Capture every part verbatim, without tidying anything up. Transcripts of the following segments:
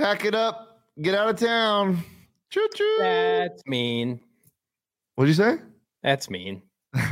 Pack it up. Get out of town. Choo-choo. That's mean. What'd you say? That's mean.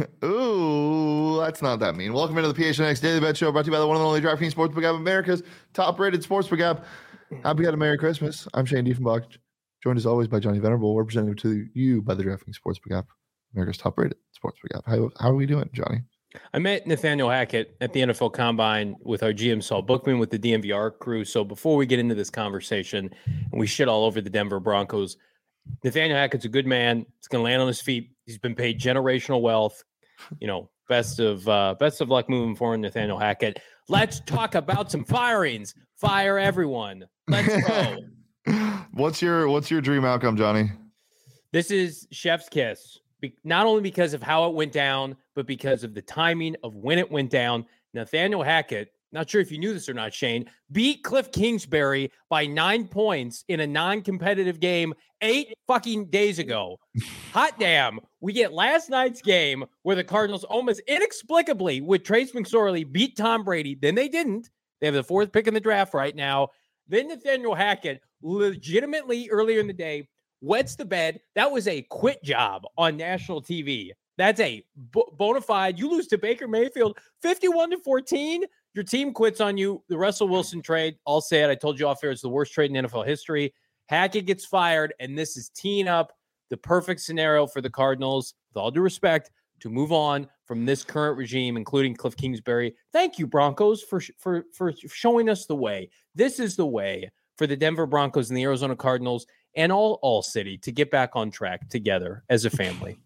Ooh, that's not that mean. Welcome into the P H N X Daily Bet Show, brought to you by the one and only DraftKings Sportsbook app, America's top-rated sportsbook app. Happy had a Merry Christmas. I'm Shane Diefenbach, joined as always by Johnny Venerable. We're presented to you by the DraftKings Sportsbook app, America's top-rated sportsbook app. How, how are we doing, Johnny? I met Nathaniel Hackett at the N F L Combine with our G M Saul Bookman with the D M V R crew. So before we get into this conversation and we shit all over the Denver Broncos, Nathaniel Hackett's a good man. He's going to land on his feet. He's been paid generational wealth. You know, best of uh, best of luck moving forward, Nathaniel Hackett. Let's talk about some firings. Fire everyone. Let's go. What's your What's your dream outcome, Johnny? This is chef's kiss. Be- not only because of how it went down, but because of the timing of when it went down. Nathaniel Hackett, not sure if you knew this or not, Shane, beat Cliff Kingsbury by nine points in a non-competitive game eight fucking days ago. Hot damn. We get last night's game where the Cardinals almost inexplicably with Trace McSorley beat Tom Brady. Then they didn't. They have the fourth pick in the draft right now. Then Nathaniel Hackett legitimately earlier in the day wets the bed. That was a quit job on national T V. That's a b- bona fide. You lose to Baker Mayfield fifty-one to fourteen. Your team quits on you. The Russell Wilson trade, I'll say it. I told you off air, it's the worst trade in N F L history. Hackett gets fired, and this is teeing up the perfect scenario for the Cardinals, with all due respect, to move on from this current regime, including Cliff Kingsbury. Thank you, Broncos, for for for showing us the way. This is the way for the Denver Broncos and the Arizona Cardinals and all all city to get back on track together as a family.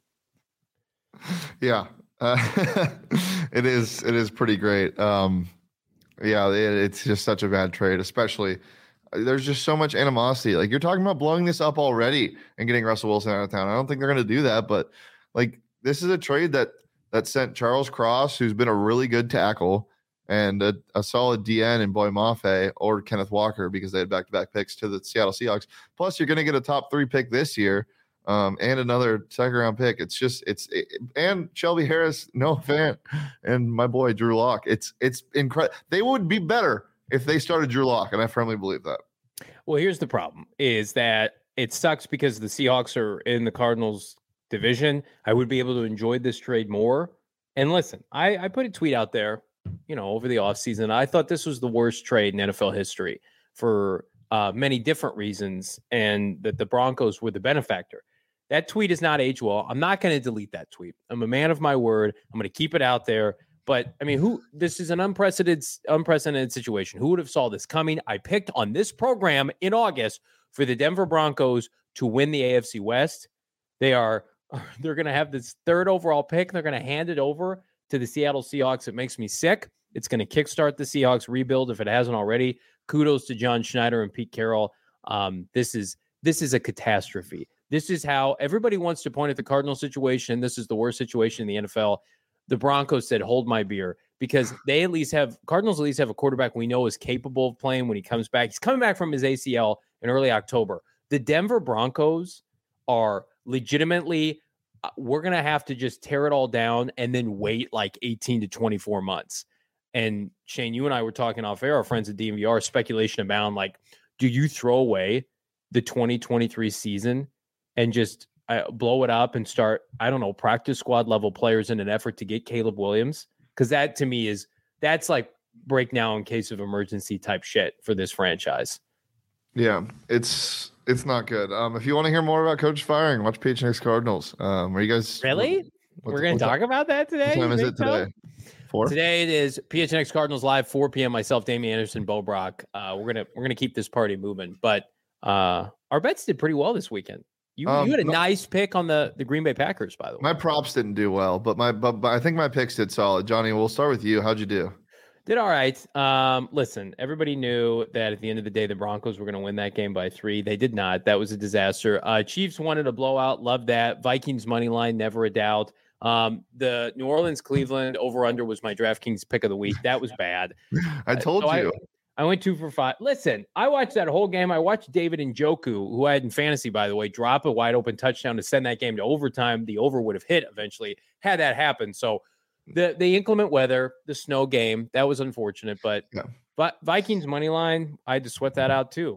Yeah, uh, it is. It is pretty great. Um, yeah, it, it's just such a bad trade, especially. There's just so much animosity. Like, you're talking about blowing this up already and getting Russell Wilson out of town. I don't think they're going to do that, but like, this is a trade that that sent Charles Cross, who's been a really good tackle, and a, a solid D N in Boy Mafe or Kenneth Walker, because they had back-to-back picks, to the Seattle Seahawks. Plus, you're going to get a top three pick this year, um, and another second-round pick. It's just it's it, and Shelby Harris, Noah Fant, and my boy Drew Lock. It's it's incredible. They would be better if they started Drew Lock, and I firmly believe that. Well, here's the problem: is that it sucks because the Seahawks are in the Cardinals division. I would be able to enjoy this trade more. And listen, I, I put a tweet out there, you know, over the offseason. I thought this was the worst trade in N F L history for uh, many different reasons, and that the Broncos were the benefactor. That tweet is not age well. I'm not going to delete that tweet. I'm a man of my word. I'm going to keep it out there. But I mean, who? This is an unprecedented, unprecedented situation. Who would have saw this coming? I picked on this program in August for the Denver Broncos to win the A F C West. They are, they're going to have this third overall pick. They're going to hand it over to the Seattle Seahawks. It makes me sick. It's going to kickstart the Seahawks rebuild if it hasn't already. Kudos to John Schneider and Pete Carroll. Um, this is this is a catastrophe. This is how everybody wants to point at the Cardinal situation. This is the worst situation in the N F L. The Broncos said, hold my beer, because they at least have, Cardinals at least have a quarterback we know is capable of playing when he comes back. He's coming back from his A C L in early October. The Denver Broncos are legitimately, uh, we're going to have to just tear it all down and then wait like eighteen to twenty-four months. And Shane, you and I were talking off air, our friends at D M V R, speculation abound, like, do you throw away the twenty twenty-three season and just uh, blow it up and start, I don't know, practice squad level players in an effort to get Caleb Williams? Because that to me is, that's like break now in case of emergency type shit for this franchise. Yeah, it's it's not good. Um, if you want to hear more about coach firing, watch P H N X Cardinals. Um, are you guys really? What, what, We're going to talk time, about that today? What time is it today? So? Four? Today it is P H N X Cardinals Live, four p.m. Myself, Damian Anderson, Bo Brock. Uh, we're gonna we're gonna keep this party moving. But uh, our bets did pretty well this weekend. You um, you had a my, nice pick on the, the Green Bay Packers, by the way. My props didn't do well, but my but, but I think my picks did solid. Johnny, we'll start with you. How'd you do? Did all right. Um, listen, everybody knew that at the end of the day, the Broncos were going to win that game by three. They did not. That was a disaster. Uh, Chiefs wanted a blowout. Love that. Vikings money line, never a doubt. Um, the New Orleans Cleveland over under was my DraftKings pick of the week. That was bad. I told so you. I, I went two for five. Listen, I watched that whole game. I watched David Njoku, who I had in fantasy, by the way, drop a wide open touchdown to send that game to overtime. The over would have hit eventually had that happened. So the the inclement weather, the snow game, that was unfortunate. But, yeah. but Vikings money line, I had to sweat that out too.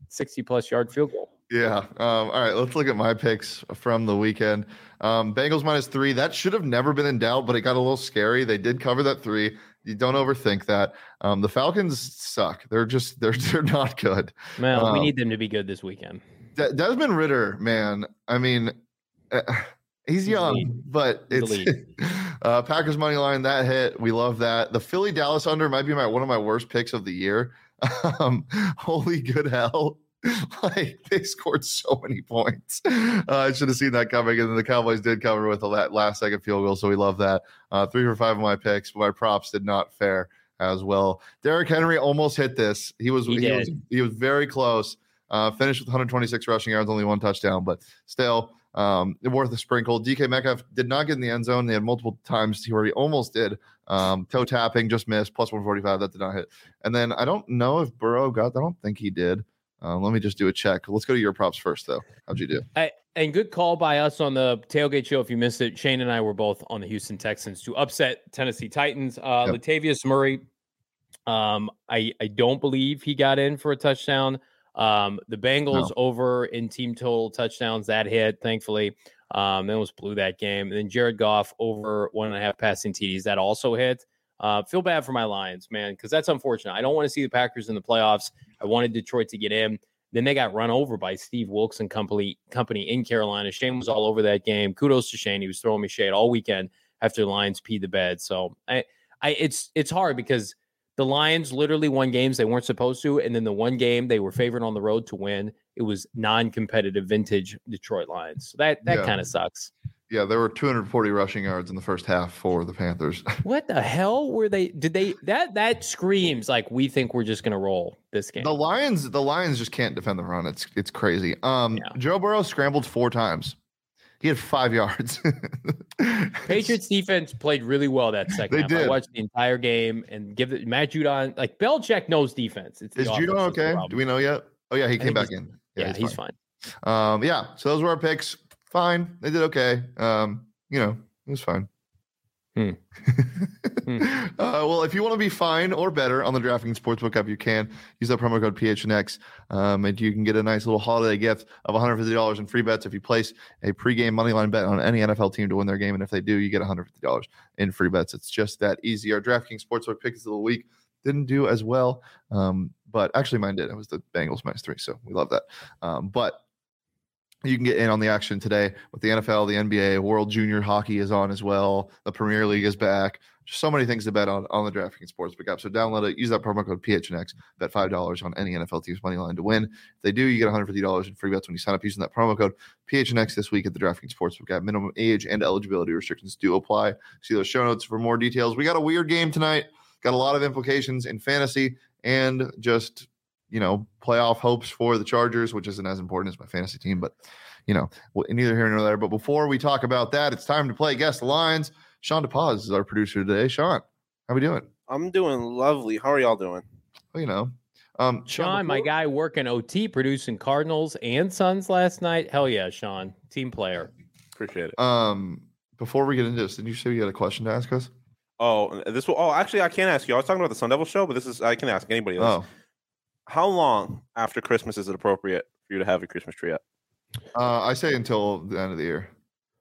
sixty plus yard field goal. Yeah. Um, all right. Let's look at my picks from the weekend. Um, Bengals minus three. That should have never been in doubt, but it got a little scary. They did cover that three. You don't overthink that. Um, the Falcons suck. They're just they're they're not good. Well, um, we need them to be good this weekend. De- Desmond Ridder, man. I mean, uh, he's, he's young, but it's uh, Packers money line that hit. We love that. The Philly Dallas under might be my one of my worst picks of the year. Um, holy good hell. Like they scored so many points. Uh, I should have seen that coming, and then the Cowboys did cover with a last second field goal, so we love that. Uh, three for five of my picks, but my props did not fare as well. Derrick Henry almost hit this. He was he, he was he was very close. Uh, finished with one hundred twenty-six rushing yards, only one touchdown, but still um, worth a sprinkle. D K Metcalf did not get in the end zone. They had multiple times where he almost did. Um, toe tapping, just missed, plus one forty-five. That did not hit. And then I don't know if Burrow got that. I don't think he did. Um, let me just do a check. Let's go to your props first, though. How'd you do? I, and good call by us on the tailgate show. If you missed it, Shane and I were both on the Houston Texans to upset Tennessee Titans. Uh, yep. Latavius Murray, um, I, I don't believe he got in for a touchdown. Um, the Bengals no. over in team total touchdowns, that hit, thankfully. Um, they almost blew that game. And then Jared Goff over one and a half passing T Ds, that also hit. Uh, feel bad for my Lions, man, because that's unfortunate. I don't want to see the Packers in the playoffs. I wanted Detroit to get in. Then they got run over by Steve Wilkes and company, company in Carolina. Shane was all over that game. Kudos to Shane. He was throwing me shade all weekend after the Lions peed the bed. So I, I, it's it's hard because the Lions literally won games they weren't supposed to, and then the one game they were favored on the road to win, it was non-competitive vintage Detroit Lions. So that that yeah. kind of sucks. Yeah, there were two hundred forty rushing yards in the first half for the Panthers. What the hell were they? Did they that that screams like we think we're just gonna roll this game? The Lions, the Lions just can't defend the run. It's it's crazy. Um, yeah. Joe Burrow scrambled four times. He had five yards. Patriots defense played really well that second they half. Did. I watched the entire game and give it Matt Judon. Like Belichick knows defense. It's Is Judon okay? Do we know yet? Oh yeah, he came back in. Yeah, yeah he's, he's fine. fine. Um, yeah. So those were our picks. Fine. They did okay. Um, you know, it was fine. Hmm. hmm. Uh, well, if you want to be fine or better on the DraftKings Sportsbook app, you can use that promo code P H N X, um, and you can get a nice little holiday gift of one hundred fifty dollars in free bets if you place a pregame moneyline bet on any N F L team to win their game. And if they do, you get one hundred fifty dollars in free bets. It's just that easy. Our DraftKings Sportsbook picks of the week didn't do as well, um, but actually mine did. It was the Bengals minus three, so we love that. Um, but you can get in on the action today with the N F L, the N B A, World Junior Hockey is on as well. The Premier League is back. Just so many things to bet on on the DraftKings Sportsbook app. So download it. Use that promo code P H N X. Bet five dollars on any N F L team's money line to win. If they do, you get one hundred fifty dollars in free bets when you sign up using that promo code P H N X this week at the DraftKings Sportsbook app. Minimum age and eligibility restrictions do apply. See those show notes for more details. We got a weird game tonight. Got a lot of implications in fantasy and just, you know, playoff hopes for the Chargers, which isn't as important as my fantasy team, but you know, neither here nor there. But before we talk about that, it's time to play Guess the Lines. Sean DePaz is our producer today. Sean, how we doing? I'm doing lovely. How are y'all doing? Well, you know, um, Sean, Sean my guy working O T, producing Cardinals and Suns last night. Hell yeah, Sean, team player. Appreciate it. Um, before we get into this, did you say you had a question to ask us? Oh, this will. Oh, actually, I can't ask you. I was talking about the Sun Devil show, but this is I can ask anybody else. Oh. How long after Christmas is it appropriate for you to have your Christmas tree up? Uh, I say until the end of the year.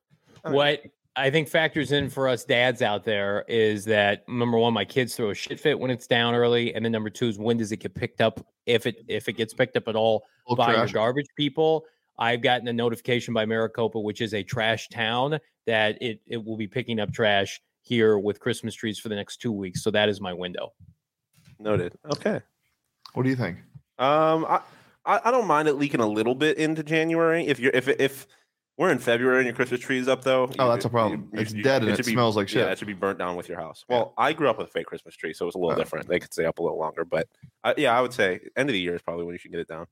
What I think factors in for us dads out there is that number one, my kids throw a shit fit when it's down early, and then number two is when does it get picked up, if it if it gets picked up at all Little by trash. your garbage people. I've gotten a notification by Maricopa, which is a trash town, that it it will be picking up trash here with Christmas trees for the next two weeks. So that is my window. Noted. Okay. What do you think? Um, I. I don't mind it leaking a little bit into January. If you're if if we're in February and your Christmas tree is up, though, oh, you, that's a problem. You, it's you, dead you, and it, it be, smells like shit. Yeah, it should be burnt down with your house. Well, yeah. I grew up with a fake Christmas tree, so it's a little oh. different. They could stay up a little longer, but uh, yeah, I would say end of the year is probably when you should get it down.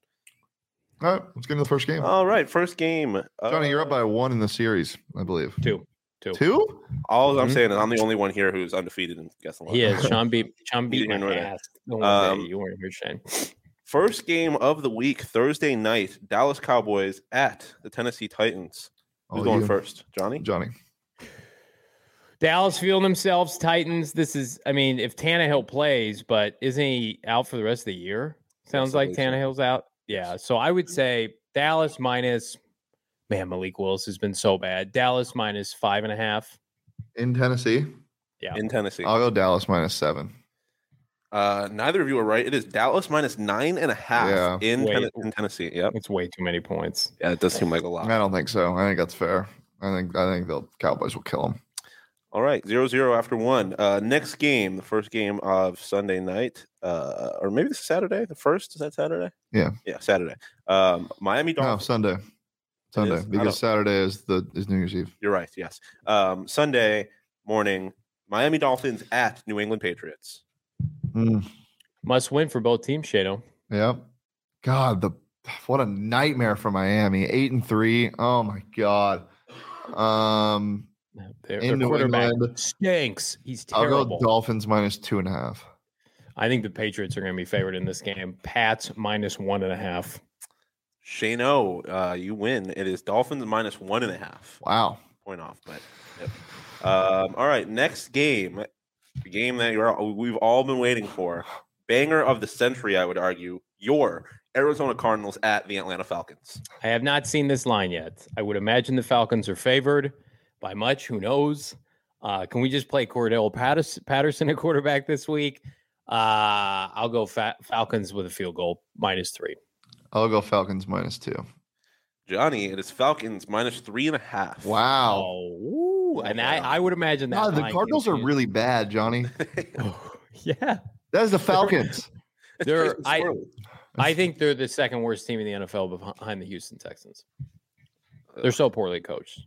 All right, let's get into the first game. All right, first game. Johnny, uh, you're up by one in the series, I believe. Two. Two. Two? All mm-hmm. I'm saying is I'm the only one here who's undefeated in Guess the Line. He is. Sean beat Sean beat my ass. Um, you weren't here, Shane. First game of the week, Thursday night, Dallas Cowboys at the Tennessee Titans. Who's oh, going you. first? Johnny? Johnny. Dallas feeling themselves. Titans. This is, I mean, if Tannehill plays, but isn't he out for the rest of the year? Sounds yes, like Tannehill's so. out. Yeah. So I would say Dallas minus, man, Malik Willis has been so bad. Dallas minus five and a half. In Tennessee? Yeah. In Tennessee. I'll go Dallas minus seven. Uh, neither of you are right. It is Dallas minus nine and a half Yeah. in, Wait. Ten- in Tennessee. Yep. It's way too many points. Yeah, it does seem like a lot. I don't think so. I think that's fair. I think I think the Cowboys will kill them. All right, zero zero after one. Uh, next game, the first game of Sunday night, uh, or maybe this is Saturday. The first is that Saturday? Yeah, yeah, Saturday. Um, Miami no Dolphins. Sunday, Sunday is? I because don't- Saturday is the is New Year's Eve. You're right. Yes. Um, Sunday morning, Miami Dolphins at New England Patriots. Mm, Must win for both teams, Shado. yep. God, the what a nightmare for Miami. Eight and three. Oh my God. Um, Their, In their New quarterback England. stinks. He's I'll terrible. go Dolphins minus two and a half. I think the Patriots are going to be favored in this game. Pats minus one and a half. Shano, uh, you win. It is Dolphins minus one and a half. Wow. Point off, but yep. Um, all right, next game, the game that you're we've all been waiting for, banger of the century, I would argue. Your Arizona Cardinals at the Atlanta Falcons. I have not seen this line yet. I would imagine the Falcons are favored by much. Who knows? Uh, can we just play Cordell Patterson, Patterson at quarterback this week? Uh, I'll go Fa- Falcons with a field goal minus three. I'll go Falcons minus two. Johnny, it is Falcons minus three and a half. Wow. Oh, ooh. and I, I would imagine that. God, the line Cardinals are continues. really bad, Johnny. Yeah, That is the Falcons. It's They're- Jason I- Squirrely. I think they're the second worst team in the N F L behind the Houston Texans. They're so poorly coached.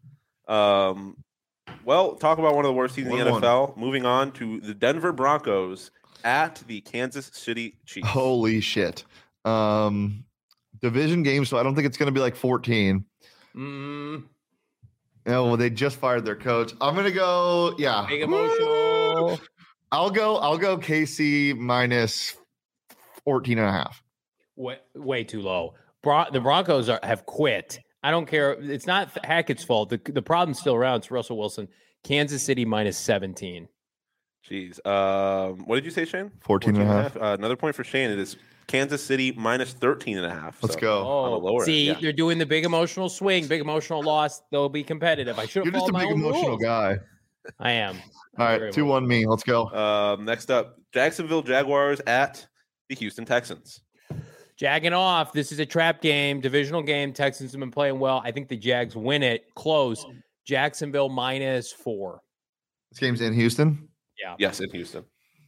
Um, well, talk about one of the worst teams in the One, N F L. Moving on to the Denver Broncos at the Kansas City Chiefs. Holy shit. Um, division game, so I don't think it's going to be like fourteen. Mm, No, well, they just fired their coach. I'm going to go, yeah. big emotional. I'll go, I'll go K C minus fourteen and a half. Way, way too low. Bron- the Broncos are, have quit. I don't care. It's not Hackett's fault. The, the problem's still around. It's Russell Wilson. Kansas City minus seventeen. Jeez. Um, what did you say, Shane? fourteen and a half. Uh, another point for Shane. It is Kansas City minus thirteen and a half. Let's So, go. on the Oh, lower end, see, yeah. they're doing the big emotional swing, big emotional loss. They'll be competitive. I should You're have just followed a my big own emotional rules. guy. I am. All Very right, two one me. Let's go. Um, next up, Jacksonville Jaguars at the Houston Texans. Jagging off. This is a trap game, divisional game. Texans have been playing well. I think the Jags win it. Close. Jacksonville minus four. This game's in Houston. Yeah. Yes, in Houston.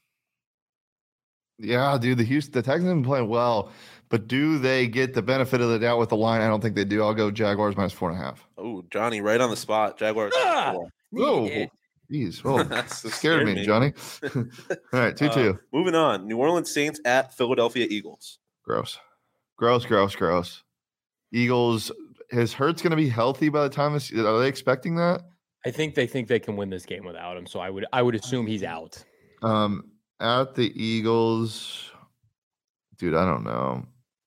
Yeah, dude, the Houston, the Texans have been playing well, but do they get the benefit of the doubt with the line? I don't think they do. I'll go Jaguars minus four and a half. Oh, Johnny, right on the spot. Jaguars. Ah! four. Whoa, Yeah. jeez, oh, That's scared, scared me, me. Johnny. All right, two Uh, two. moving on. New Orleans Saints at Philadelphia Eagles. Gross, gross, gross, gross. Eagles. Is Hurts going to be healthy by the time this? Are they expecting that? I think they think they can win this game without him. So I would I would assume he's out. Um, at the Eagles, dude, I don't know.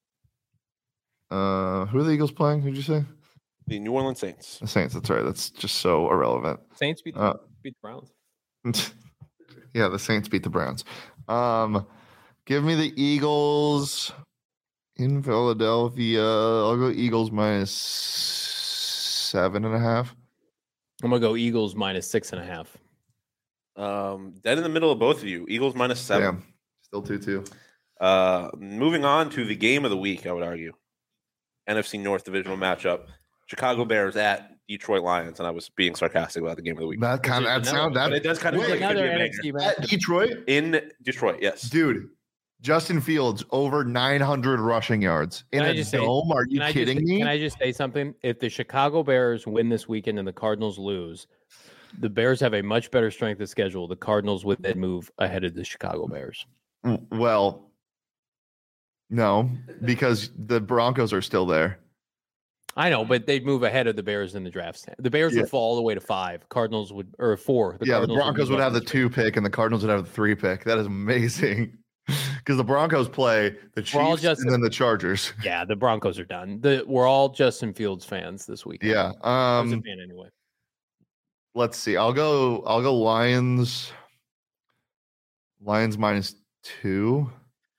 Uh, who are the Eagles playing? Who'd you say? The New Orleans Saints. The Saints. That's right. That's just so irrelevant. Saints beat the, Uh, beat the Browns. yeah, the Saints beat the Browns. Um, give me the Eagles in Philadelphia. I'll go Eagles minus seven and a half. I'm gonna go Eagles minus six and a half. Um, dead in the middle of both of you. Eagles minus seven. Damn, still two two. Uh, moving on to the game of the week, I would argue. N F C North divisional matchup. Chicago Bears at Detroit Lions, and I was being sarcastic about the game of the week. That kind of that Another- sound that But it does kind of Wait, feel like it could Another be a N banger. F C at match. Detroit, In Detroit, yes. dude. Justin Fields over nine hundred rushing yards in Can I a just say- dome. Are you Can I kidding just, me? Can I just say something? If the Chicago Bears win this weekend and the Cardinals lose, the Bears have a much better strength of schedule. The Cardinals would then move ahead of the Chicago Bears. Mm, Well, no, because the Broncos are still there. I know, but they'd move ahead of the Bears in the draft stand. The Bears Yeah. would fall all the way to five. Cardinals would or four. yeah, the Cardinals Broncos move would up have the to two pick, and the Cardinals would have the three pick. That is amazing. Because the Broncos play the We're all Chiefs just- and then the Chargers. Yeah, the Broncos are done. The, we're all Justin Fields fans this week. Yeah. I was a Um. fan anyway. Let's see. I'll go. I'll go Lions. Lions minus two.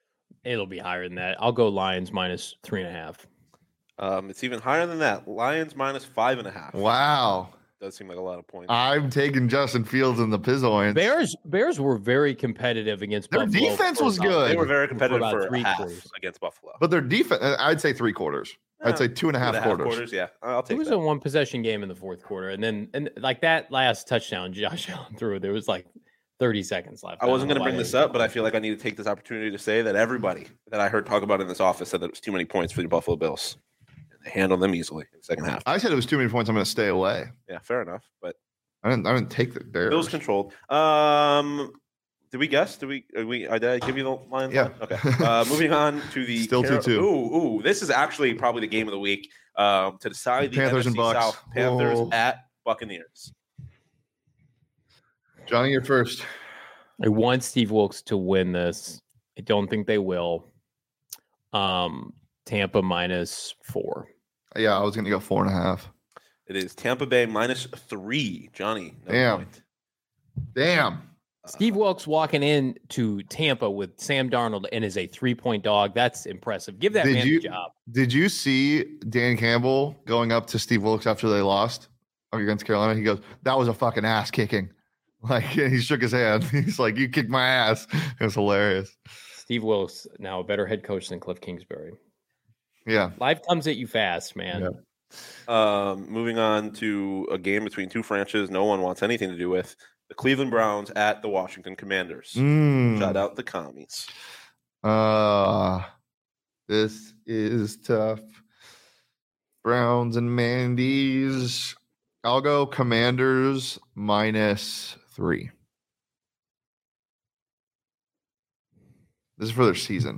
It'll be higher than that. I'll go Lions minus three and a half. Um, it's even higher than that. Lions minus five and a half. Wow. Does seem like a lot of points. I'm taking Justin Fields in the Pizzoins. Bears Bears were very competitive against Their Buffalo. defense for was about- good. They were very competitive about for, three half quarters. against Buffalo. But their defense, I'd say three quarters. I'd say two and a half, Two and a quarters. quarters. Yeah, I'll It take was that. a one possession game in the fourth quarter, and then and like that last touchdown, Josh Allen threw. There was like thirty seconds left. I wasn't don't going to know bring why this they- up, but I feel like I need to take this opportunity to say that everybody that I heard talk about in this office said that it was too many points for the Buffalo Bills. They handled them easily in the second half. I said it was too many points. I'm going to stay away. Yeah, fair enough. But I didn't. I didn't take the Bears. Bills controlled. Um, did we guess? Did we? Are we? Did I give you the line? Yeah. Okay. Uh, moving on to the Still Car- 2-2. Ooh, ooh. This is actually probably the game of the week. Um, to decide the Panthers and N F C Bucks. South. Panthers Oh. at Buccaneers. Johnny, you're first. I want Steve Wilkes to win this. I don't think they will. Um, Tampa minus four. Yeah, I was going to go four and a half. It is Tampa Bay minus three. Johnny. No Damn. point. Damn. Steve Wilkes walking in to Tampa with Sam Darnold and is a three point dog. That's impressive. Give that Did man you- a job. Did you see Dan Campbell going up to Steve Wilkes after they lost against Carolina? He goes, "That was a fucking ass kicking." Like he shook his hand. He's like, "You kicked my ass." It was hilarious. Steve Wilkes now a better head coach than Cliff Kingsbury. Yeah. Life comes at you fast, man. Yeah. Um, moving on to a game between two franchises no one wants anything to do with. The Cleveland Browns at the Washington Commanders. Mm. Shout out the commies. Uh, this is tough. Browns and Mandy's. I'll go Commanders minus three. This is for their season.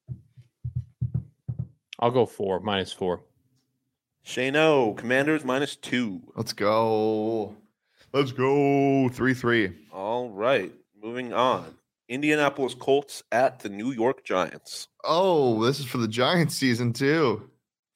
I'll go four, minus four. Shano, Commanders minus two. Let's go. Let's go. three three. All right. Moving on. Indianapolis Colts at the New York Giants. Oh, this is for the Giants season too.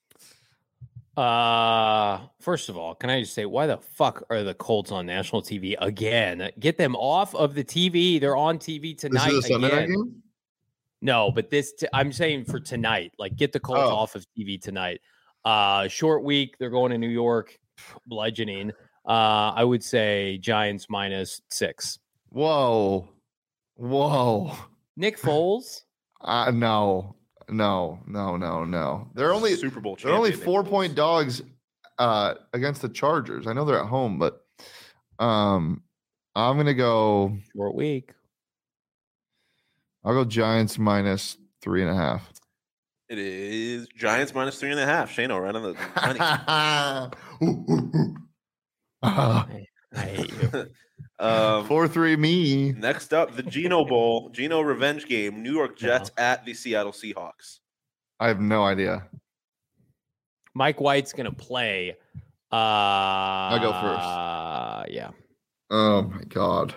Uh, first of all, can I just say, why the fuck are the Colts on national T V again? Get them off of the T V. They're on T V tonight. This is a Sunday night again. game? No, but this t- I'm saying for tonight. Like, get the Colts Oh. off of T V tonight. Uh, short week. They're going to New York, bludgeoning. Uh, I would say Giants minus six. Whoa. Whoa. Nick Foles. Uh, no. No, no, no, no. They're only Super Bowl they're only champion, Nick four Foles. point dogs uh against the Chargers. I know they're at home, but um I'm gonna go Short week. I'll go Giants minus three and a half. It is Giants minus three and a half. Shano, right on the money. Ooh, ooh, ooh. Ah, I hate you. um, four three me. next up, the Geno Bowl, Geno revenge game. New York Jets at the Seattle Seahawks. I have no idea. Mike White's gonna play. Uh, I'll go first. Yeah. Oh my god.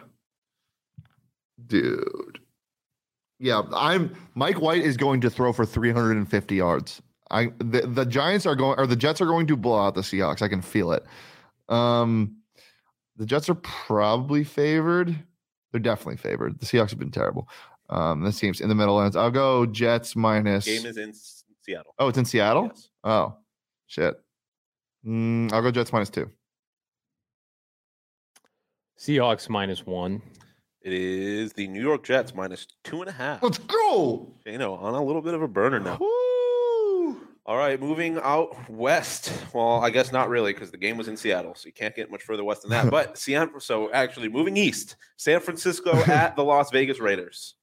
Dude. Yeah, I'm Mike White is going to throw for three hundred fifty yards. I the, the Giants are going or the Jets are going to blow out the Seahawks. I can feel it. Um the Jets are probably favored. They're definitely favored. The Seahawks have been terrible. Um this team's in the middle ends. I'll go Jets minus Game is in S- Seattle. Oh, it's in Seattle? Yes. Oh, shit. Mm, I'll go Jets minus two. Seahawks minus one. It is the New York Jets minus two and a half. Let's go. Shano on a little bit of a burner now. Woo! All right, moving out west. Well, I guess not really because the game was in Seattle, so you can't get much further west than that. But Seattle, so actually moving east, San Francisco at the Las Vegas Raiders.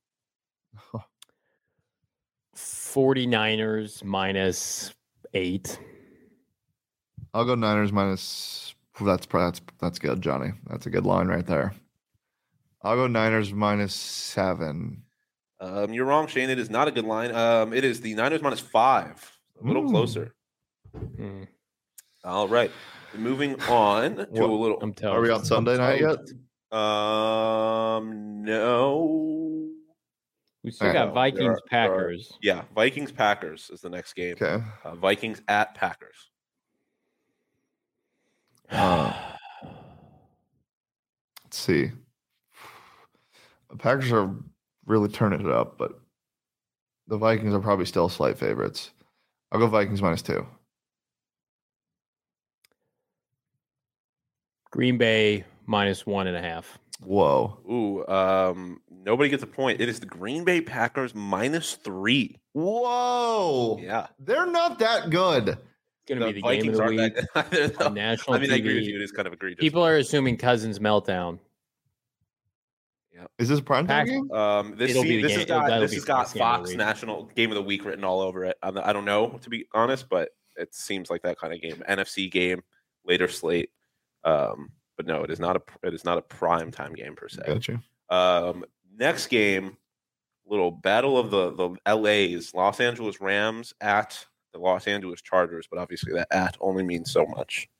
49ers minus eight. I'll go Niners minus. That's probably that's that's good, Johnny. That's a good line right there. I'll go Niners minus seven. Um, you're wrong, Shane. It is not a good line. Um, it is the Niners minus five. A little Ooh. closer. Hmm. All right. Moving on to What? a little. I'm telling Are we you. on Sunday night yet? Um, no. We still All got right. Vikings, There are- there are- Packers. Yeah, Vikings Packers is the next game. Okay. Uh, Vikings at Packers. Uh, let's see. The Packers are really turning it up, but The Vikings are probably still slight favorites. I'll go Vikings minus two. Green Bay minus one and a half. Whoa. Ooh, um, nobody gets a point. It is the Green Bay Packers minus three. Whoa. Yeah. They're not that good. It's going to be the game of the aren't week that- on national I mean, I agree with T V. you. It is kind of egregious. People are assuming Cousins meltdown. Is this a prime time Pack- game? Um, this It'll be see, the this game- has got that'll this be has the got best game of the Fox week. National Game of the Week written all over it. I'm, I don't know, to be honest, but it seems like that kind of game. N F C game, later slate. Um, but no, it is not a it is not a prime time game per se. Gotcha. Um, next game, little battle of the the L A's, Los Angeles Rams at the Los Angeles Chargers, but obviously that at only means so much.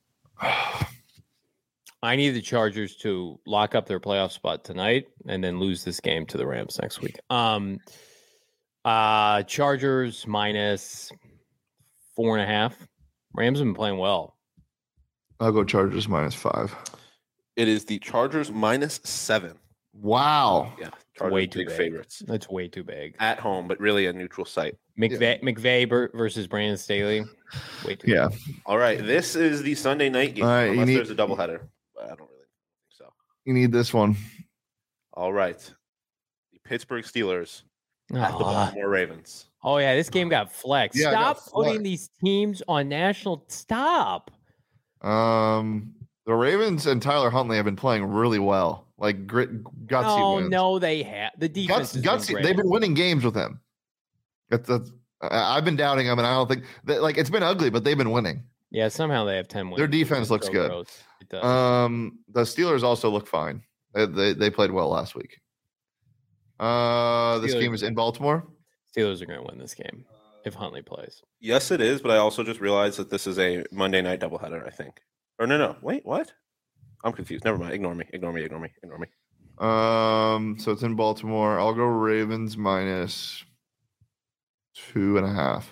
I need the Chargers to lock up their playoff spot tonight and then lose this game to the Rams next week. Um, uh, Chargers minus four and a half. Rams have been playing well. I'll go Chargers minus five. It is the Chargers minus seven. Wow. Yeah, Chargers Way too big big. favorites That's way too big. at home, but really a neutral site. McVay, McVay ber- versus Brandon Staley. Way too Yeah. big. All right, this is the Sunday night game, All right, you unless need- there's a doubleheader. But I don't really think so. You need this one. All right, the Pittsburgh Steelers at the Aw. Baltimore Ravens. Oh, yeah. This game got flexed. Yeah, it Stop got putting flexed. these teams on national. Stop. Um, the Ravens and Tyler Huntley have been playing really well. Like grit, gutsy Oh, wins. no, they have. The defense Guts, is gutsy. They've been winning games with him. That's, that's, I- I've been doubting them, and I don't think that, like it's been ugly, but they've been winning. Yeah, somehow they have ten wins. Their defense It's looks so good. gross. It does. Um, the Steelers also look fine. They they, they played well last week. Uh, this Steelers- game is in Baltimore. Steelers are going to win this game if Huntley plays. Yes, it is, but I also just realized that this is a Monday night doubleheader. I think, or no, no, wait, what? I'm confused. Never mind. Ignore me. Ignore me. Ignore me. Ignore me. Um, so it's in Baltimore. I'll go Ravens minus two and a half.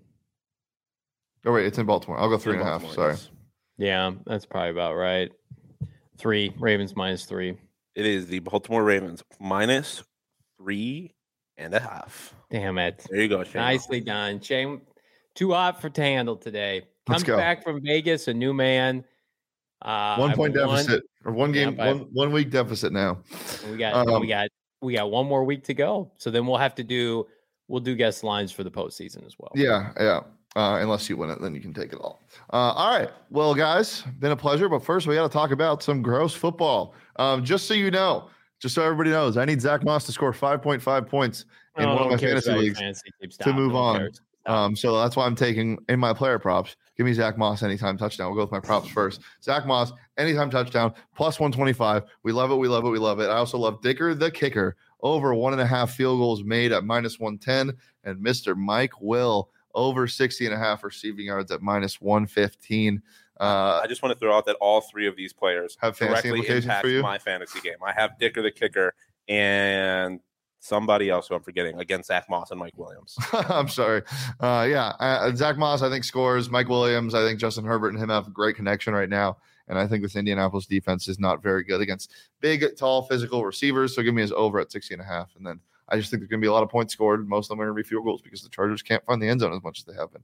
Oh wait, it's in Baltimore. I'll go three and a half. Baltimore, Sorry. yes. Yeah, that's probably about right. Three. Ravens minus three. It is the Baltimore Ravens minus three and a half. Damn it. There you go, Shane. Nicely done. Shane, too hot for to handle today. Let's Comes go. back from Vegas, a new man. Uh, One I point won. deficit or one Yeah, game, but- one one week deficit now. We got Um, we got we got one more week to go. So then we'll have to do we'll do guest lines for the postseason as well. Yeah, yeah. Uh, unless you win it, then you can take it all. Uh, all right. Well, guys, been a pleasure. But first, we got to talk about some gross football. Um, just so you know, just so everybody knows, I need Zach Moss to score five point five points in Oh, one no of my one cares fantasy about your leagues. fantasy team. to Stop. move No one on. cares. Stop. Um, so that's why I'm taking in my player props. Give me Zach Moss anytime touchdown. We'll go with my props first. Zach Moss anytime touchdown plus one twenty-five. We love it. We love it. We love it. I also love Dicker the kicker over one and a half field goals made at minus one ten, and Mister Mike Will over sixty and a half receiving yards at minus one fifteen. Uh, I just want to throw out that all three of these players Have fantasy directly implications impact for you? my fantasy game. I have Dicker the kicker and somebody else who I'm forgetting against Zach Moss and Mike Williams. I'm sorry. Uh, yeah, uh, Zach Moss, I think, scores. Mike Williams, I think Justin Herbert and him have a great connection right now. And I think this Indianapolis defense is not very good against big, tall, physical receivers. So give me his over at sixty and a half. And then I just think there's going to be a lot of points scored. Most of them are going to be field goals because the Chargers can't find the end zone as much as they have been.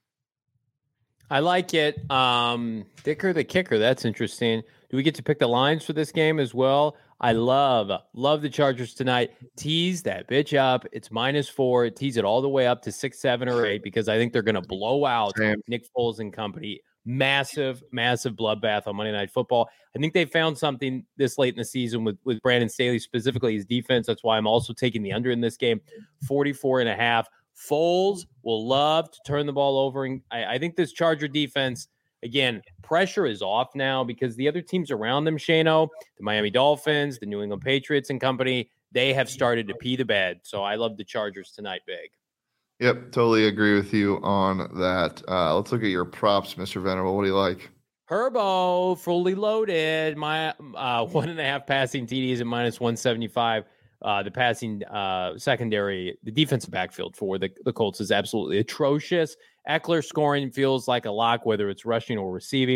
I like it. Um, Dicker the kicker. That's interesting. Do we get to pick the lines for this game as well? I love, love the Chargers tonight. Tease that bitch up. It's minus four. Tease it all the way up to six, seven, or eight because I think they're going to blow out Same. Nick Foles and company. Massive, massive bloodbath on Monday Night Football. I think they found something this late in the season with, with Brandon Staley, specifically his defense. That's why I'm also taking the under in this game, forty-four and a half. Foles will love to turn the ball over. And I, I think this Charger defense, again, pressure is off now because the other teams around them, Shano, the Miami Dolphins, the New England Patriots and company, they have started to pee the bed. So I love the Chargers tonight big. Yep, totally agree with you on that. Uh, let's look at your props, Mister Venerable. What do you like? Herbo, fully loaded. My uh, one and a half passing T Ds at minus one seventy-five. Uh, the passing uh, secondary, the defensive backfield for the, the Colts is absolutely atrocious. Eckler scoring feels like a lock, whether it's rushing or receiving.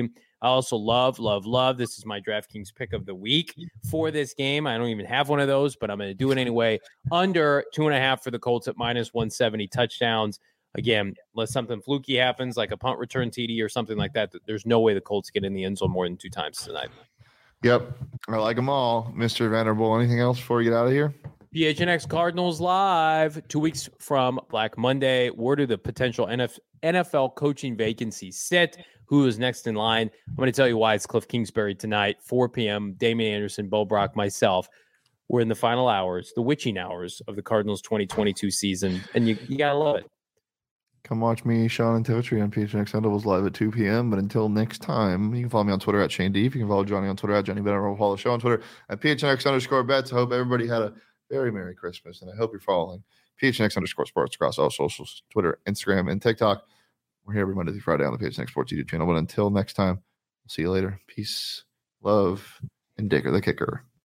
I also love, love, love. This is my DraftKings pick of the week for this game. I don't even have one of those, but I'm going to do it anyway. Under two and a half for the Colts at minus one seventy touchdowns. Again, unless something fluky happens, like a punt return T D or something like that, there's no way the Colts get in the end zone more than two times tonight. Yep. I like them all. Mister Vanderbilt, anything else before we get out of here? P H N X Cardinals live two weeks from Black Monday. Where do the potential N F L coaching vacancies sit? Who is next in line? I'm going to tell you why. It's Cliff Kingsbury tonight, four p.m. Damian Anderson, Bo Brock, myself. We're in the final hours, the witching hours of the Cardinals twenty twenty-two season, and you, you got to love it. Come watch me, Sean, and Totri on P H N X Sundables live at two p.m. But until next time, you can follow me on Twitter at Shane Deep. You can follow Johnny on Twitter at Johnny Benner. Follow the show on Twitter at P H N X underscore bets. I hope everybody had a very Merry Christmas, and I hope you're following P H N X underscore sports across all socials, Twitter, Instagram, and TikTok. We're here every Monday through Friday on the P H N X Sports YouTube channel. But until next time, we'll see you later. Peace, love, and Digger the Kicker.